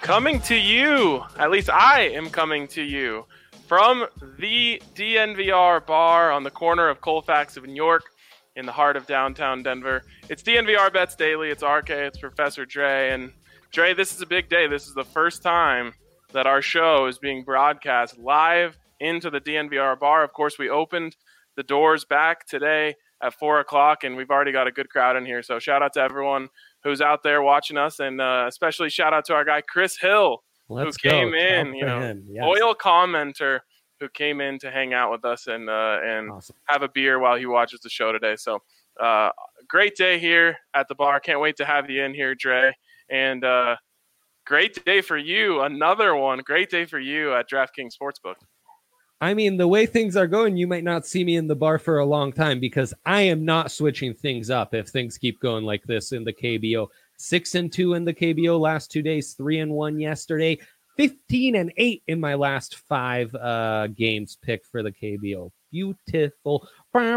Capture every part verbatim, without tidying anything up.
Coming to you, at least I am coming to you, from the D N V R bar on the corner of Colfax and York in the heart of downtown Denver. It's D N V R Bets Daily. It's R K. It's Professor Dre. And Dre, this is a big day. This is the first time that our show is being broadcast live into the D N V R bar. Of course, we opened the doors back today at four o'clock, and we've already got a good crowd in here. So shout out to everyone who's out there watching us, and uh, especially shout out to our guy Chris Hill, Let's who came go. in, Talk you to know, him. Yes. loyal commenter who came in to hang out with us and uh, and Awesome. have a beer while he watches the show today. So uh, great day here at the bar. Can't wait to have you in here, Dre. And uh, great day for you. Another one. Great day for you at DraftKings Sportsbook. I mean, the way things are going, you might not see me in the bar for a long time because I am not switching things up if things keep going like this in the K B O. Six and two in the K B O last two days, three and one yesterday, fifteen and eight in my last five uh, games picked for the K B O. Beautiful.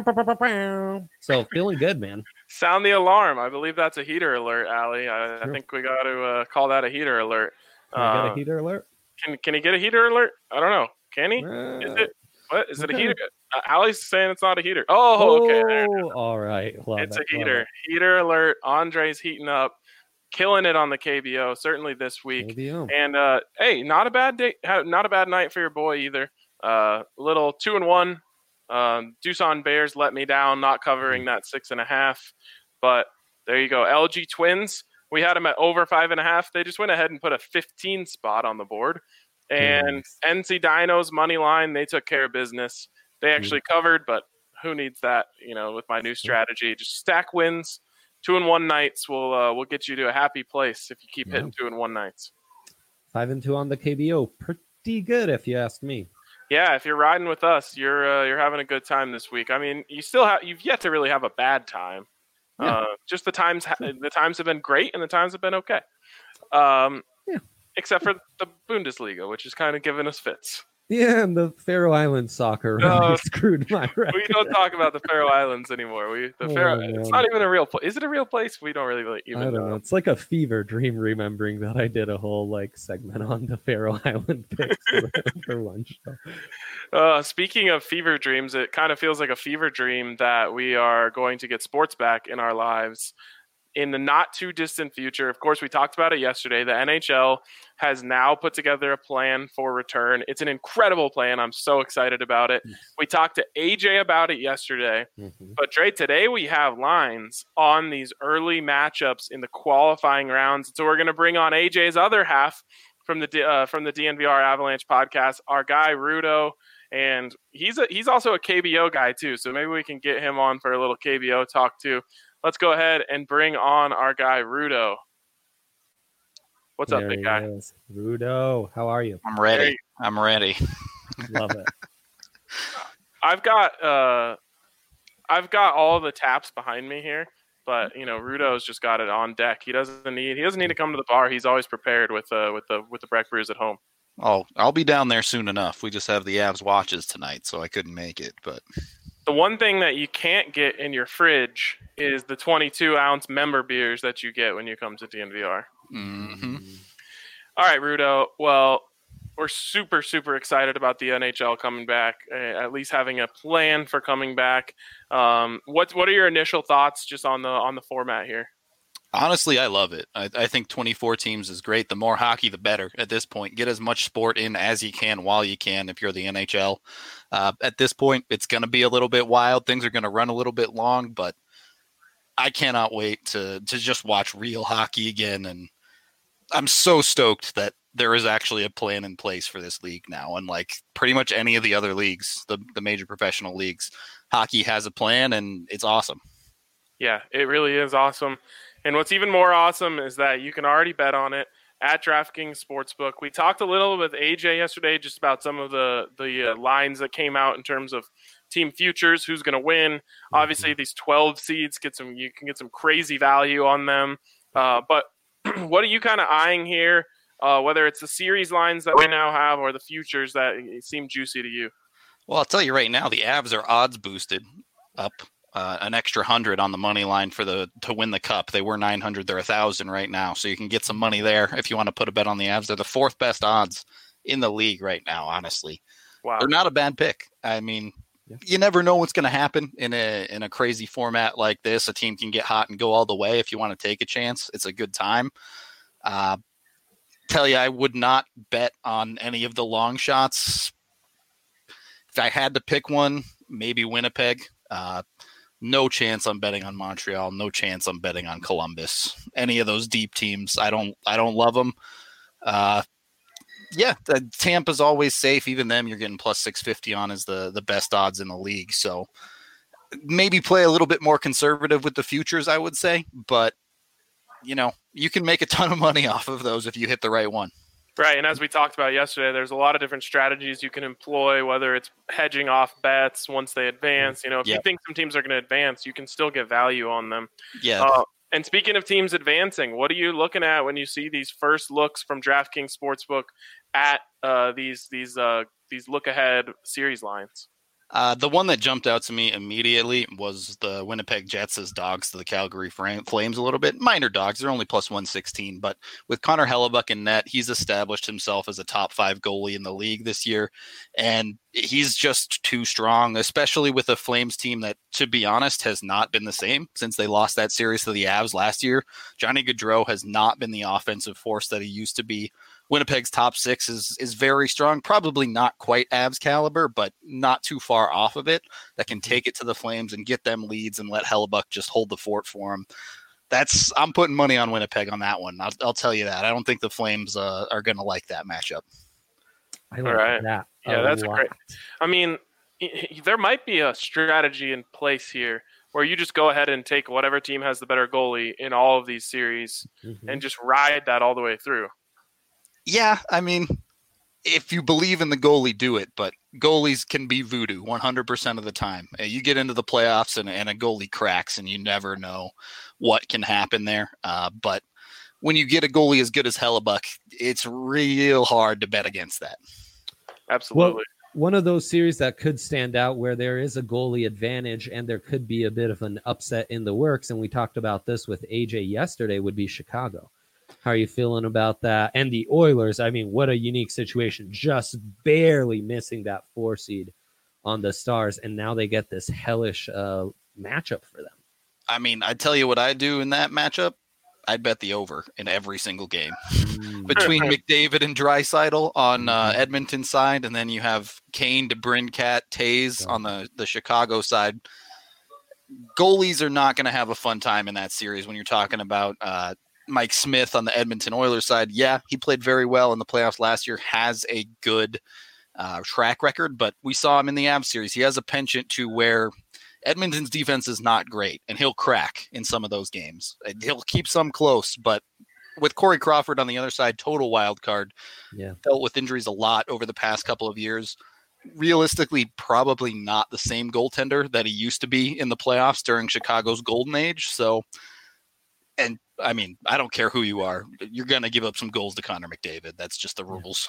So feeling good, man. Sound the alarm. I believe that's a heater alert, Allie. I, I think we got to uh, call that a heater alert. Can I get Uh, a heater alert? Can can he get a heater alert? I don't know. Can he? Uh, Is it? What is it? A okay. heater? Uh, Allie's saying it's not a heater. Oh, okay. There it is. Oh, all right. Love It's it, a love heater. it. Heater alert. Andre's heating up, killing it on the K B O. Certainly this week. K B O. And uh, hey, not a bad day. Not a bad night for your boy either. Uh, little two and one. Um, Doosan Bears let me down, not covering that six and a half. But there you go. L G Twins. We had them at over five and a half. They just went ahead and put a fifteen spot on the board. And Nice. N C Dinos money line, they took care of business. They actually covered, but who needs that? You know, with my new strategy, just stack wins. Two and one nights will uh, will get you to a happy place if you keep Yeah. hitting two and one nights. Five and two on the K B O. Pretty good, if you ask me. Yeah, if you're riding with us, you're uh, you're having a good time this week. I mean, you still have you've yet to really have a bad time. Yeah. Uh, just the times ha- the times have been great and the times have been okay. Um, Yeah. Except for the Bundesliga, which is kind of giving us fits. Yeah, and the Faroe Islands soccer really No, screwed my record. We don't talk about the Faroe Islands anymore. We the Oh, Faroe, man. it's not even a real place. Is it a real place? We don't really like, I even don't know. know. It's like a fever dream remembering that I did a whole like segment on the Faroe Island picks for, for one show. Uh, speaking of fever dreams, it kind of feels like a fever dream that we are going to get sports back in our lives in the not too distant future. Of course, we talked about it yesterday. The N H L has now put together a plan for return. It's an incredible plan. I'm so excited about it. We talked to A J about it yesterday. Mhm. But Dre, today we have lines on these early matchups in the qualifying rounds. So we're going to bring on A J's other half from the D- uh, from the D N V R Avalanche podcast, our guy Rudo, and he's a, he's also a K B O guy too. So maybe we can get him on for a little K B O talk too. Let's go ahead and bring on our guy Rudo. What's up, There big he guy? is. Rudo, how are you? I'm There ready. you- I'm ready. Love it. I've got uh, I've got all the taps behind me here, but you know Rudo's just got it on deck. He doesn't need he doesn't need to come to the bar. He's always prepared with uh with the with the Breck Brews at home. Oh, I'll be down there soon enough. We just have the Avs watches tonight, so I couldn't make it. But The one thing that you can't get in your fridge is the twenty-two ounce member beers that you get when you come to D N V R. hmm All right, Rudo. Well, we're super, super excited about the N H L coming back, uh, at least having a plan for coming back. Um, what What are your initial thoughts just on the on the format here? honestly, I love it. I, I think twenty-four teams is great. The more hockey, the better at this point. Get as much sport in as you can while you can if you're the N H L. Uh, at this point, it's going to be a little bit wild. Things are going to run a little bit long, but I cannot wait to to just watch real hockey again. And I'm so stoked that there is actually a plan in place for this league now. Unlike pretty much any of the other leagues, the, the major professional leagues, hockey has a plan, and it's awesome. Yeah, it really is awesome. And what's even more awesome is that you can already bet on it at DraftKings Sportsbook. We talked a little with A J yesterday just about some of the, the uh, lines that came out in terms of team futures, who's going to win. Obviously, these twelve seeds, get some you can get some crazy value on them. Uh, but what are you kind of eyeing here, uh, whether it's the series lines that we now have or the futures that seem juicy to you? Well, I'll tell you right now, the Avs are odds boosted up uh, an extra hundred on the money line for the to win the cup. They were nine hundred. They're a thousand right now. So you can get some money there if you want to put a bet on the Avs. They're the fourth best odds in the league right now, honestly. Wow. They're not a bad pick. I mean, yeah. You never know what's going to happen in a in a crazy format like this. A team can get hot and go all the way. If you want to take a chance, it's a good time. Uh, tell you, I would not bet on any of the long shots. If I had to pick one, maybe Winnipeg. Uh, no chance I'm betting on Montreal. No chance I'm betting on Columbus. Any of those deep teams, I don't. I don't love them. Uh, Yeah, the Tampa's always safe. Even them, you're getting plus six fifty on as the, the best odds in the league. So maybe play a little bit more conservative with the futures, I would say. But, you know, you can make a ton of money off of those if you hit the right one. Right, and as we talked about yesterday, there's a lot of different strategies you can employ, whether it's hedging off bets once they advance. You know, if yep. you think some teams are going to advance, you can still get value on them. Yeah. Uh, And speaking of teams advancing, what are you looking at when you see these first looks from DraftKings Sportsbook at uh, these these uh, these look ahead series lines? Uh, the one that jumped out to me immediately was the Winnipeg Jets as dogs to the Calgary Flames a little bit. Minor dogs. They're only plus one sixteen. But with Connor Hellebuck in net, he's established himself as a top five goalie in the league this year. And he's just too strong, especially with a Flames team that, to be honest, has not been the same since they lost that series to the Avs last year. Johnny Gaudreau has not been the offensive force that he used to be. Winnipeg's top six is is very strong, probably not quite Avs caliber, but not too far off of it, that can take it to the Flames and get them leads and let Hellebuck just hold the fort for him. That's I'm putting money on Winnipeg on that one. I'll, I'll tell you that. I don't think the Flames uh, are going to like that matchup. I like right. that. Yeah, that's lot. great. I mean, there might be a strategy in place here where you just go ahead and take whatever team has the better goalie in all of these series mm-hmm. and just ride that all the way through. Yeah, I mean, if you believe in the goalie, do it. But goalies can be voodoo one hundred percent of the time. You get into the playoffs and, and a goalie cracks, and you never know what can happen there. Uh, but when you get a goalie as good as Hellebuck, it's real hard to bet against that. Absolutely. Well, one of those series that could stand out where there is a goalie advantage and there could be a bit of an upset in the works, and we talked about this with A J yesterday, would be Chicago. How are you feeling about that? And the Oilers, I mean, what a unique situation. Just barely missing that four seed on the Stars, and now they get this hellish uh, matchup for them. I mean, I tell you what I do in that matchup. I'd bet the over in every single game. Mm. Between McDavid and Draisaitl on uh, Edmonton side, and then you have Kane, DeBrincat, Taves yeah. on the, the Chicago side. Goalies are not going to have a fun time in that series when you're talking about uh, Mike Smith on the Edmonton Oilers side. Yeah, he played very well in the playoffs last year, has a good uh, track record, but we saw him in the Avs series. He has a penchant to where Edmonton's defense is not great, and he'll crack in some of those games. He'll keep some close, but with Corey Crawford on the other side, total wild card. Yeah. Dealt with injuries a lot over the past couple of years. Realistically, probably not the same goaltender that he used to be in the playoffs during Chicago's golden age. So, and I mean, I don't care who you are. You're going to give up some goals to Connor McDavid. That's just the rules.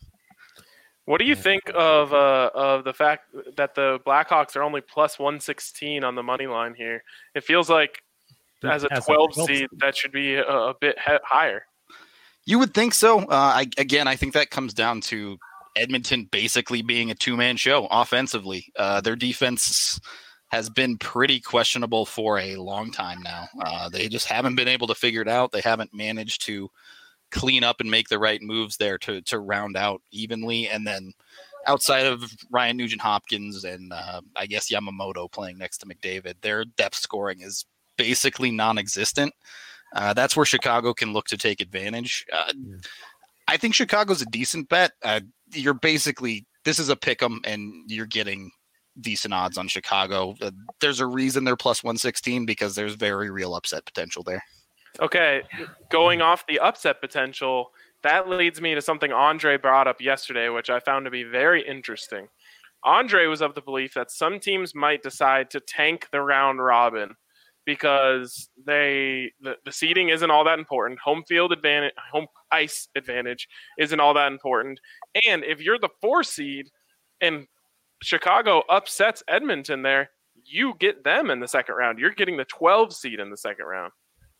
What do you think of uh, of the fact that the Blackhawks are only plus one sixteen on the money line here? It feels like as a twelve seed, that should be a, a bit he- higher. You would think so. Uh, I, again, I think that comes down to Edmonton basically being a two-man show offensively. Uh, their defense has been pretty questionable for a long time now. Uh, they just haven't been able to figure it out. They haven't managed to clean up and make the right moves there to to round out evenly. And then outside of Ryan Nugent-Hopkins and uh, I guess Yamamoto playing next to McDavid, their depth scoring is basically non-existent. Uh, that's where Chicago can look to take advantage. Uh, yeah. I think Chicago's a decent bet. Uh, you're basically, this is a pick 'em and you're getting decent odds on Chicago. Uh, there's a reason they're plus one sixteen because there's very real upset potential there. Okay, going off the upset potential, that leads me to something Andre brought up yesterday, which I found to be very interesting. Andre was of the belief that some teams might decide to tank the round robin because they the, the seeding isn't all that important. Home field advantage, home ice advantage isn't all that important. And if you're the four seed and Chicago upsets Edmonton there, you get them in the second round. You're getting the twelve seed in the second round.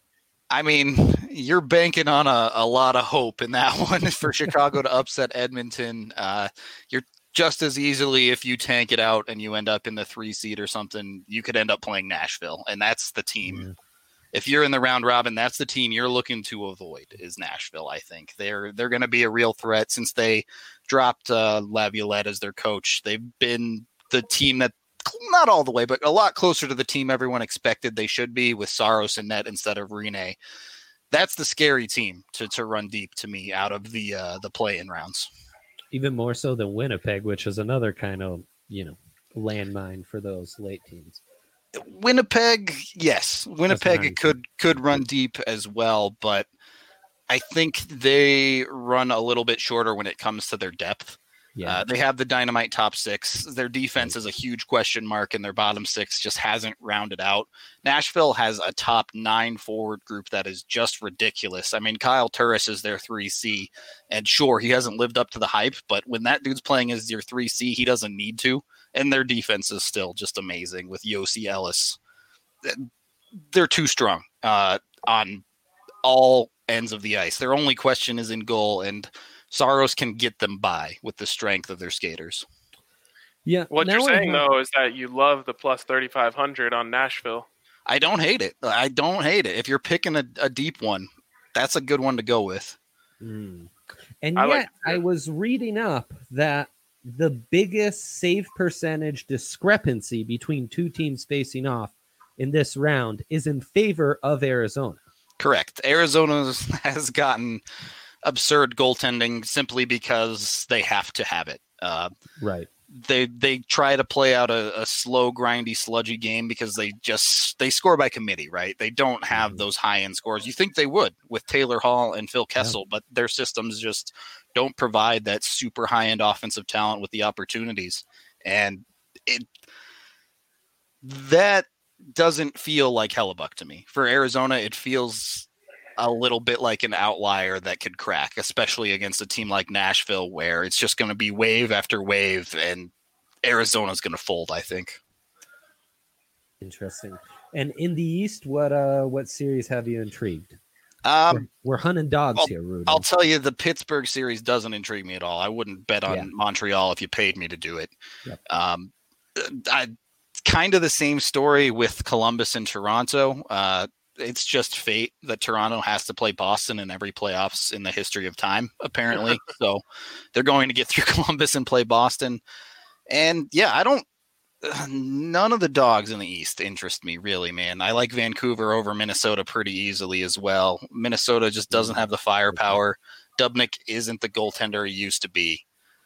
I mean, you're banking on a, a lot of hope in that one for Chicago to upset Edmonton. Uh, you're just as easily, if you tank it out and you end up in the three seed or something, you could end up playing Nashville. And that's the team. Mm-hmm. If you're in the round robin, that's the team you're looking to avoid is Nashville, I think. They're they're going to be a real threat since they dropped uh, Laviolette as their coach. They've been the team that, not all the way, but a lot closer to the team everyone expected they should be with Saros and net instead of Rinne. That's the scary team to, to run deep to me out of the uh, the play-in rounds. Even more so than Winnipeg, which is another kind of, you know, landmine for those late teams. Winnipeg, yes. Winnipeg could could run deep as well, but I think they run a little bit shorter when it comes to their depth. Yeah. Uh, they have the dynamite top six. Their defense is a huge question mark, and their bottom six just hasn't rounded out. Nashville has a top nine forward group that is just ridiculous. I mean, Kyle Turris is their three C, and sure, he hasn't lived up to the hype, but when that dude's playing as your three C, he doesn't need to, and their defense is still just amazing with Yossi Ellis. They're too strong uh, on all ends of the ice. Their only question is in goal, and Saros can get them by with the strength of their skaters. Yeah. What you're saying, have... though, is that you love the plus thirty-five hundred on Nashville. I don't hate it. I don't hate it. If you're picking a, a deep one, that's a good one to go with. Mm. And I yet, like I was reading up that the biggest save percentage discrepancy between two teams facing off in this round is in favor of Arizona. Correct. Arizona has gotten absurd goaltending simply because they have to have it. Uh, right. They they try to play out a, a slow, grindy, sludgy game because they just they score by committee, right? They don't have mm-hmm. those high end scores. You think they would with Taylor Hall and Phil Kessel, yeah. but their systems just don't provide that super high end offensive talent with the opportunities, and it that doesn't feel like Hellebuck to me. For Arizona, it feels a little bit like an outlier that could crack, especially against a team like Nashville, where it's just going to be wave after wave, and Arizona's going to fold, I think. Interesting. And in the East, what uh, what series have you intrigued? Um, we're, we're hunting dogs I'll, here, Rudy. I'll tell you, the Pittsburgh series doesn't intrigue me at all. I wouldn't bet on yeah. Montreal if you paid me to do it. Yep. Um, I kind of the same story with Columbus and Toronto. Uh, It's just fate that Toronto has to play Boston in every playoffs in the history of time, apparently. So they're going to get through Columbus and play Boston. And yeah, I don't, uh, none of the dogs in the East interest me really, man. I like Vancouver over Minnesota pretty easily as well. Minnesota just doesn't have the firepower. Dubnyk isn't the goaltender he used to be.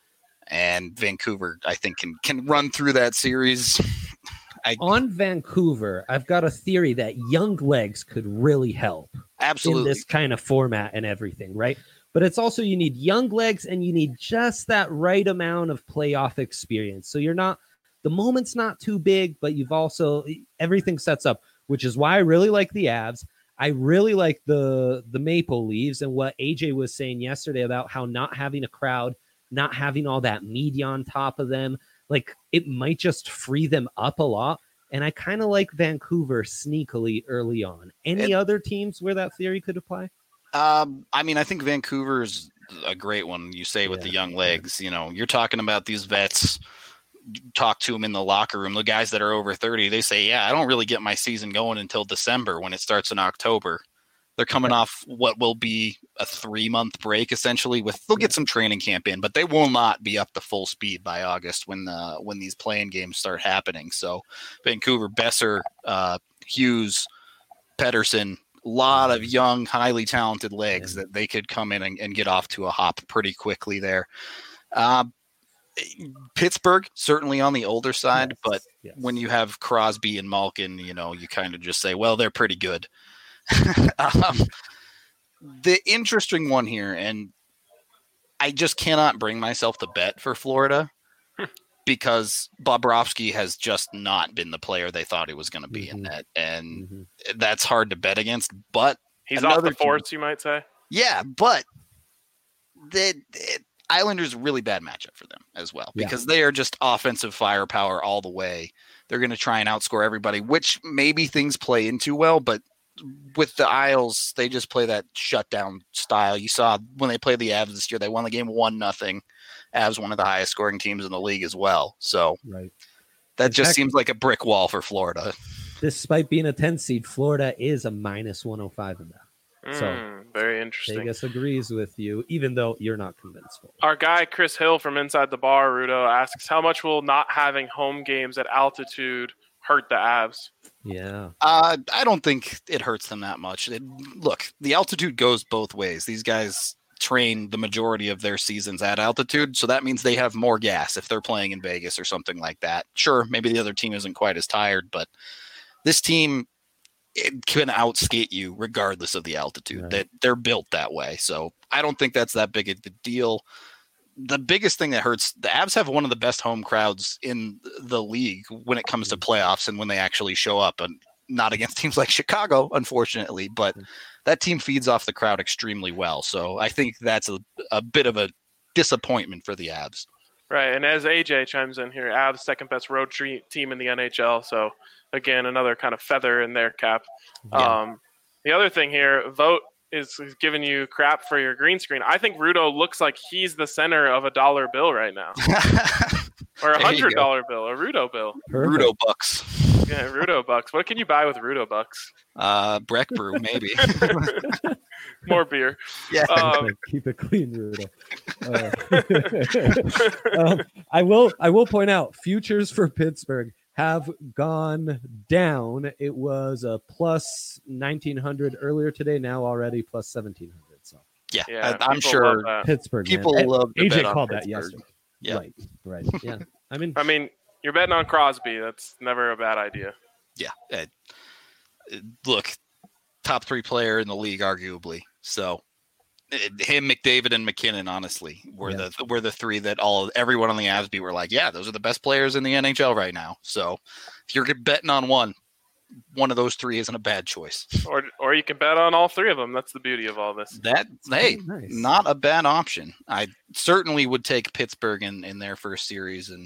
And Vancouver, I think, can, can run through that series. I, On Vancouver, I've got a theory that young legs could really help. Absolutely. In this kind of format and everything, right? But it's also you need young legs and you need just that right amount of playoff experience. So you're not, the moment's not too big, but you've also, everything sets up, which is why I really like the Avs. I really like the, the Maple Leafs and what A J was saying yesterday about how not having a crowd, not having all that media on top of them, like it might just free them up a lot. And I kind of like Vancouver sneakily early on. Any it, other teams where that theory could apply? Um, I mean, I think Vancouver's a great one. You say with yeah, the young legs, yeah. you know, you're talking about these vets, talk to them in the locker room, the guys that are over thirty, they say, yeah, I don't really get my season going until December when it starts in October. They're coming off what will be a three-month break, essentially. With they'll get some training camp in, but they will not be up to full speed by August when the when these playing games start happening. So, Vancouver, Besser, uh, Hughes, Pedersen, a lot of young, highly talented legs that they could come in and, and get off to a hop pretty quickly there. Uh, Pittsburgh, certainly on the older side, yes. but yes. when you have Crosby and Malkin, you know, you kind of just say, well, they're pretty good. um, the interesting one here, and I just cannot bring myself to bet for Florida because Bobrovsky has just not been the player they thought he was going to be mm-hmm. in that, and mm-hmm. that's hard to bet against. But he's off the force, you might say. Yeah, but the, the Islanders really bad matchup for them as well because yeah. they are just offensive firepower all the way. they're going to try and outscore everybody, which maybe things play into well, but with the Isles, they just play that shutdown style. You saw when they played the Avs this year, they won the game one nothing. Avs, one of the highest scoring teams in the league as well. So right. that In just fact, seems like a brick wall for Florida. Despite being a ten seed, Florida is a minus one oh five in that. So Mm, very interesting. Vegas agrees with you, even though you're not convinced. Our guy Chris Hill from Inside the Bar, Rudo, asks, how much will not having home games at altitude hurt the Avs? Yeah. Uh, I don't think it hurts them that much. It, look, the altitude goes both ways. These guys train the majority of their seasons at altitude, so that means they have more gas if they're playing in Vegas or something like that. Sure, maybe the other team isn't quite as tired, but this team it can outskate you regardless of the altitude. Right. That they're built that way. So I don't think that's that big of a deal. The biggest thing that hurts, the Avs have one of the best home crowds in the league when it comes to playoffs and when they actually show up, and not against teams like Chicago, unfortunately, but that team feeds off the crowd extremely well. So I think that's a, a bit of a disappointment for the Avs. Right, and as A J chimes in here, Avs second best road tre- team in the N H L. So again, another kind of feather in their cap. Yeah. Um, the other thing here, Vote is, is giving you crap for your green screen. I think Rudo looks like he's the center of a dollar bill right now, or a There you hundred dollar bill, a Rudo bill. Perfect. Rudo Bucks. Yeah, Rudo bucks. What can you buy with Rudo bucks? Uh, Breck Brew, maybe. More beer. Yeah. Um, Keep it clean, Rudo. Uh, um, I will. I will point out futures for Pittsburgh have gone down. It was a plus nineteen hundred earlier today. Now already plus seventeen hundred. So Yeah, yeah, I, I'm people sure love that. Pittsburgh. people man. love to A J bet on called that Pittsburgh. yesterday. Yeah. Right. Right. Yeah. I mean, I mean, you're betting on Crosby. That's never a bad idea. Yeah. Uh, look, top three player in the league, arguably. So uh, him, McDavid, and McKinnon, honestly, were Yeah. the were the three that all everyone on the Avs beat were like, yeah, those are the best players in the N H L right now. So if you're betting on one, one of those three isn't a bad choice. Or or you can bet on all three of them. That's the beauty of all this. That hey, Oh, nice. not a bad option. I certainly would take Pittsburgh in, in their first series. And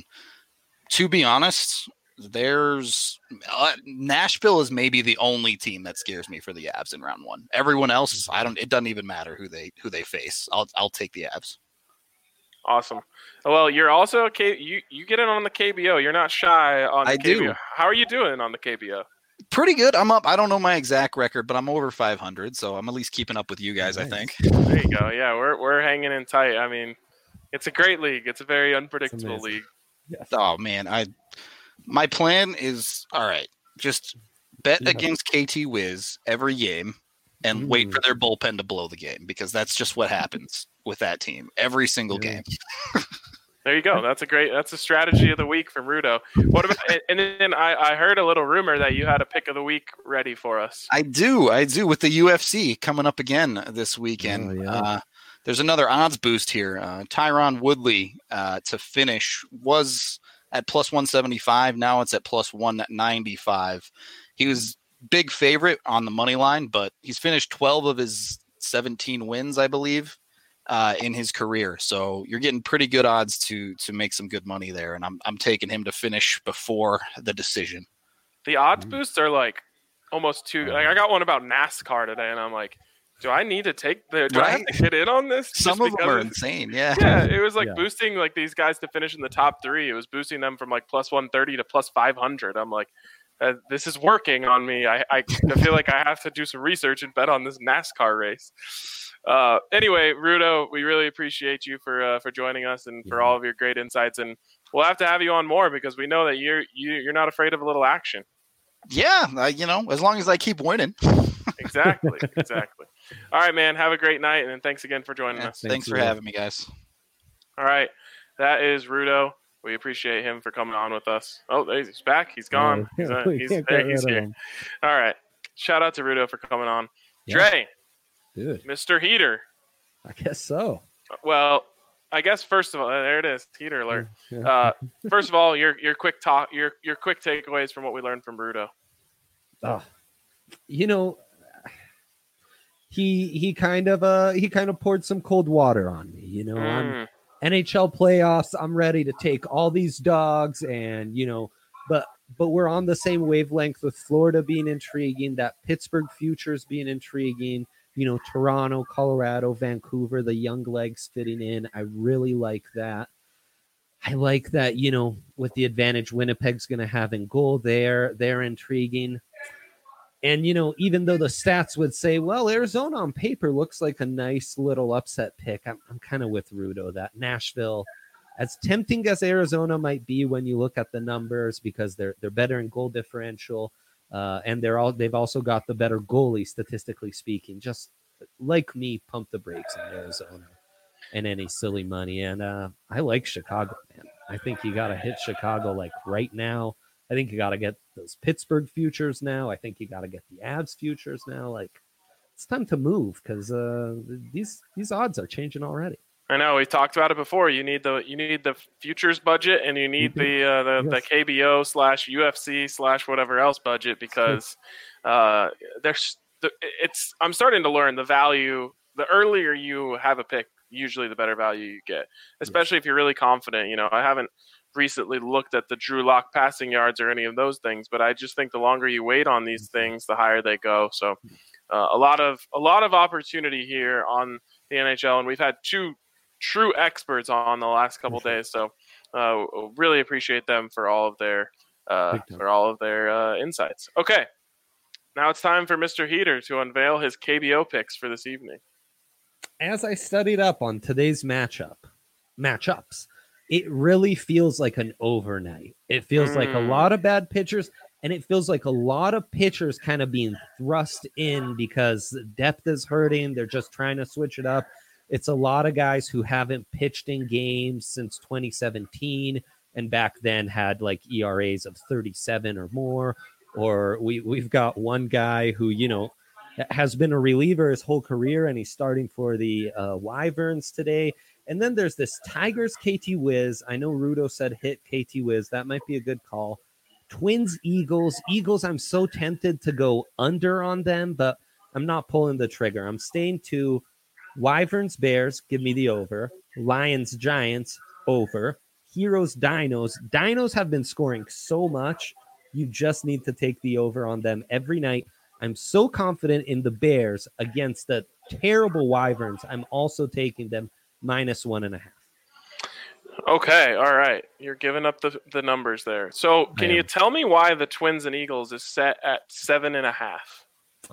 to be honest, there's uh, Nashville is maybe the only team that scares me for the Avs in round one. Everyone else, I don't. It doesn't even matter who they who they face. I'll I'll take the Avs. Awesome. Well, you're also K- you you get in on the K B O. You're not shy on the I K B O. do. How are you doing on the K B O? Pretty good. I'm up. I don't know my exact record, but I'm over five hundred, so I'm at least keeping up with you guys. Nice. I think. There you go. Yeah, we're we're hanging in tight. I mean, it's a great league. It's a very unpredictable amazing. league. yes. Oh man, I my plan is all right. Just bet Yeah. against K T Wiz every game and wait Ooh. for their bullpen to blow the game, because that's just what happens with that team every single Yeah. game. There you go. That's a great. That's a strategy of the week from Rudo. What about? And then I, I heard a little rumor that you had a pick of the week ready for us. I do, I do with the U F C coming up again this weekend. Oh, yeah. uh, there's another odds boost here. Uh, Tyron Woodley uh, to finish was at plus one seventy-five. Now it's at plus one ninety-five. He was big favorite on the money line, but he's finished twelve of his seventeen wins, I believe, uh, in his career. So you're getting pretty good odds to to make some good money there, and I'm I'm taking him to finish before the decision. The odds Mhm. boosts are like almost too. Like I got one about NASCAR today, and I'm like, do I need to take the? Do I have Right? to get in on this? Some Just of them are because- insane. Yeah. Yeah, it was like Yeah. boosting like these guys to finish in the top three. It was boosting them from like plus one thirty to plus five hundred. I'm like, uh, this is working on me. I, I I feel like I have to do some research and bet on this NASCAR race. Uh, anyway, Rudo, we really appreciate you for uh, for joining us and for Yeah. all of your great insights. And we'll have to have you on more because we know that you're you, you're not afraid of a little action. Yeah, uh, you know, as long as I keep winning. Exactly, exactly. All right, man. Have a great night, and thanks again for joining Yeah, us. thanks Thanks, for Rudo. having me, guys. All right, that is Rudo. We appreciate him for coming on with us. Oh, there he's back. He's gone. He's, uh, We he's, can't there, get he's rid of here. him. All right. Shout out to Rudo for coming on. Yeah. Dre, Dude, Mister Heater. I guess so. Well, I guess first of all, there it is. Heater alert. Yeah. Uh, first of all, your your quick talk, your your quick takeaways from what we learned from Rudo. Oh, you know, he he kind of uh he kind of poured some cold water on me. You know, I'm Mm, N H L playoffs. I'm ready to take all these dogs, and you know, but but we're on the same wavelength with Florida being intriguing, that Pittsburgh futures being intriguing, you know, Toronto, Colorado, Vancouver, the young legs fitting in. I really like that. I like that, you know, with the advantage Winnipeg's going to have in goal there, they're intriguing. And, you know, even though the stats would say, well, Arizona on paper looks like a nice little upset pick, I'm, I'm kind of with Rudo that Nashville, as tempting as Arizona might be when you look at the numbers, because they're they're better in goal differential, uh, and they're all they've also got the better goalie statistically speaking. Just like me, pump the brakes on Arizona and any silly money. And uh, I like Chicago, man. I think you got to hit Chicago like right now. I think you got to get those Pittsburgh futures now. I think you got to get the Avs futures now. Like, it's time to move because uh, these these odds are changing already. I know we talked about it before. You need the you need the futures budget, and you need the uh, the, yes. the K B O slash U F C slash whatever else budget, because uh, there's it's. I'm starting to learn the value. The earlier you have a pick, usually the better value you get, especially yes. if you're really confident. You know, I haven't recently looked at the Drew Lock passing yards or any of those things, but I just think the longer you wait on these things, the higher they go. So uh, a lot of a lot of opportunity here on the N H L, and we've had two true experts on the last couple days. So uh, really appreciate them for all of their uh, for all of their uh, insights. Okay, now it's time for Mister Heater to unveil his K B O picks for this evening. As I studied up on today's matchup matchups, it really feels like an overnight. It feels mm. like a lot of bad pitchers, and it feels like a lot of pitchers kind of being thrust in because depth is hurting. They're just trying to switch it up. It's a lot of guys who haven't pitched in games since twenty seventeen, and back then had like E R As of thirty-seven or more. Or we, we've got one guy who, you know, has been a reliever his whole career, and he's starting for the uh, Wyverns today. And then there's this Tigers K T Wiz. I know Rudo said hit K T Wiz. That might be a good call. Twins, Eagles. Eagles, I'm so tempted to go under on them, but I'm not pulling the trigger. I'm staying to Wyverns, Bears. Give me the over. Lions, Giants, over. Heroes, Dinos. Dinos have been scoring so much. You just need to take the over on them every night. I'm so confident in the Bears against the terrible Wyverns. I'm also taking them minus one and a half. Okay, all right. You're giving up the, the numbers there. So can you tell me why the Twins and Eagles is set at seven and a half?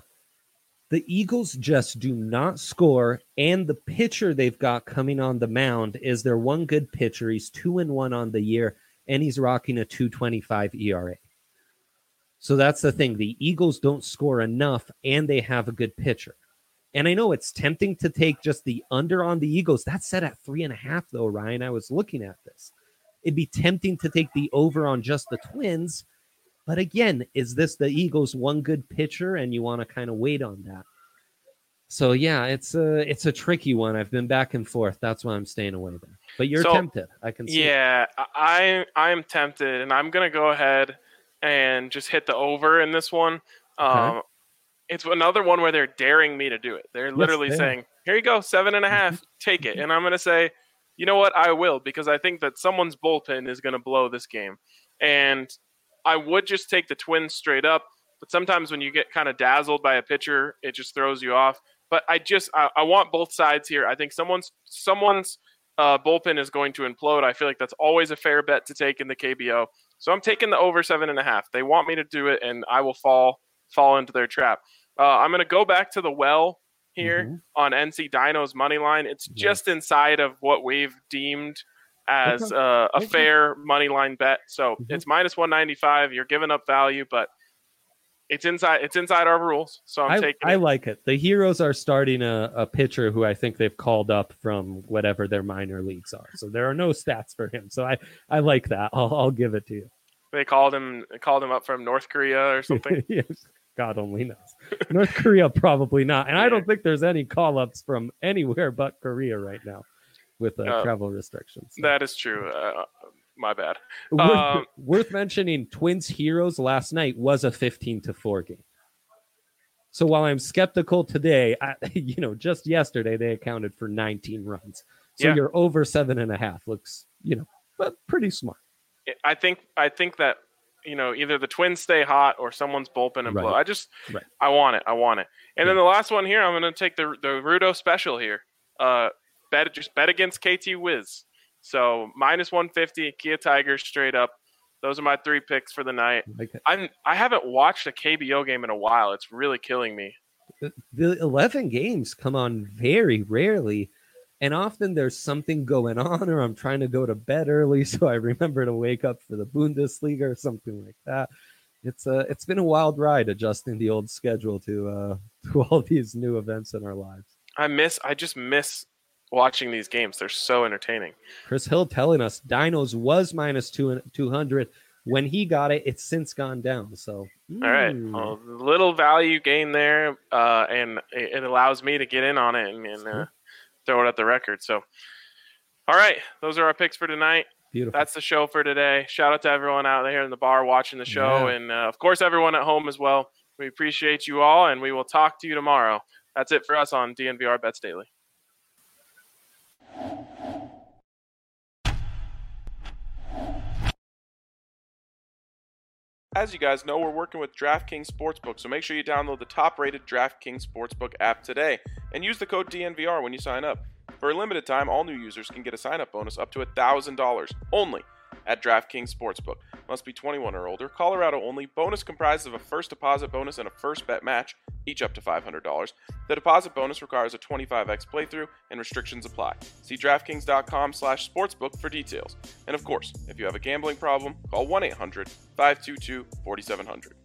The Eagles just do not score, and the pitcher they've got coming on the mound is their one good pitcher. He's two and one on the year, and he's rocking a two twenty-five E R A. So that's the thing. The Eagles don't score enough, and they have a good pitcher. And I know it's tempting to take just the under on the Eagles. That's set at three and a half, though, Ryan. I was looking at this. It'd be tempting to take the over on just the Twins. But again, is this the Eagles' one good pitcher, and you want to kind of wait on that? So, yeah, it's a, it's a tricky one. I've been back and forth. That's why I'm staying away there. But you're so, tempted. I can see Yeah, it. I, I'm tempted, and I'm going to go ahead and just hit the over in this one. Um, okay. It's another one where they're daring me to do it. They're literally yes, they saying, here you go, seven and a half, take it. And I'm going to say, you know what, I will, because I think that someone's bullpen is going to blow this game. And I would just take the Twins straight up, but sometimes when you get kind of dazzled by a pitcher, it just throws you off. But I just, I, I want both sides here. I think someone's someone's uh, bullpen is going to implode. I feel like that's always a fair bet to take in the K B O. So I'm taking the over seven and a half. They want me to do it, and I will fall fall into their trap. Uh, I'm going to go back to the well here mm-hmm. on N C Dino's money line. It's yes. just inside of what we've deemed as okay. uh, a okay. fair money line bet. So mm-hmm. it's minus one ninety-five. You're giving up value, but it's inside it's inside our rules. So I'm I, taking I it. like it. The Heroes are starting a, a pitcher who I think they've called up from whatever their minor leagues are. So there are no stats for him. So I, I like that. I'll, I'll give it to you. They called him called him up from North Korea or something. Yes. God only knows. North Korea, probably not. And yeah. I don't think there's any call-ups from anywhere but Korea right now with uh, uh, travel restrictions. So. That is true. Uh, my bad. Worth, um, worth mentioning, Twins Heroes last night was a fifteen to four game. So while I'm skeptical today, I, you know, just yesterday they accounted for nineteen runs. So yeah. you're over seven and a half looks, you know, but pretty smart. I think I think that you know, either the Twins stay hot or someone's bullpen and Right. blow. I just, Right. I want it. I want it. And then the last one here, I'm going to take the the Rudo special here. Uh, bet just bet against K T Wiz. So minus one fifty, Kia Tigers straight up. Those are my three picks for the night. Like, I'm I haven't watched a K B O game in a while. It's really killing me. the eleven games come on very rarely, and often there's something going on, or I'm trying to go to bed early, so I remember to wake up for the Bundesliga or something like that. It's uh, it's been a wild ride adjusting the old schedule to uh, to all these new events in our lives. I miss I just miss watching these games. They're so entertaining. Chris Hill telling us Dinos was minus two two hundred when he got it. It's since gone down. So all right, mm. well, little value gain there, uh, and it, it allows me to get in on it and, and uh, throw it at the record. So, all right, those are our picks for tonight. Beautiful. That's the show for today. Shout out to everyone out there in the bar watching the show, Yeah. and uh, of course everyone at home as well. We appreciate you all, and we will talk to you tomorrow. That's it for us on D N V R Bets Daily. As you guys know, we're working with DraftKings Sportsbook, so make sure you download the top-rated DraftKings Sportsbook app today and use the code D N V R when you sign up. For a limited time, all new users can get a sign-up bonus up to one thousand dollars only at DraftKings Sportsbook. Must be twenty-one or older. Colorado only. Bonus comprised of a first deposit bonus and a first bet match, each up to five hundred dollars. The deposit bonus requires a twenty-five x playthrough and restrictions apply. See DraftKings.com slash sportsbook for details. And of course, if you have a gambling problem, call one eight hundred five two two four seven zero zero.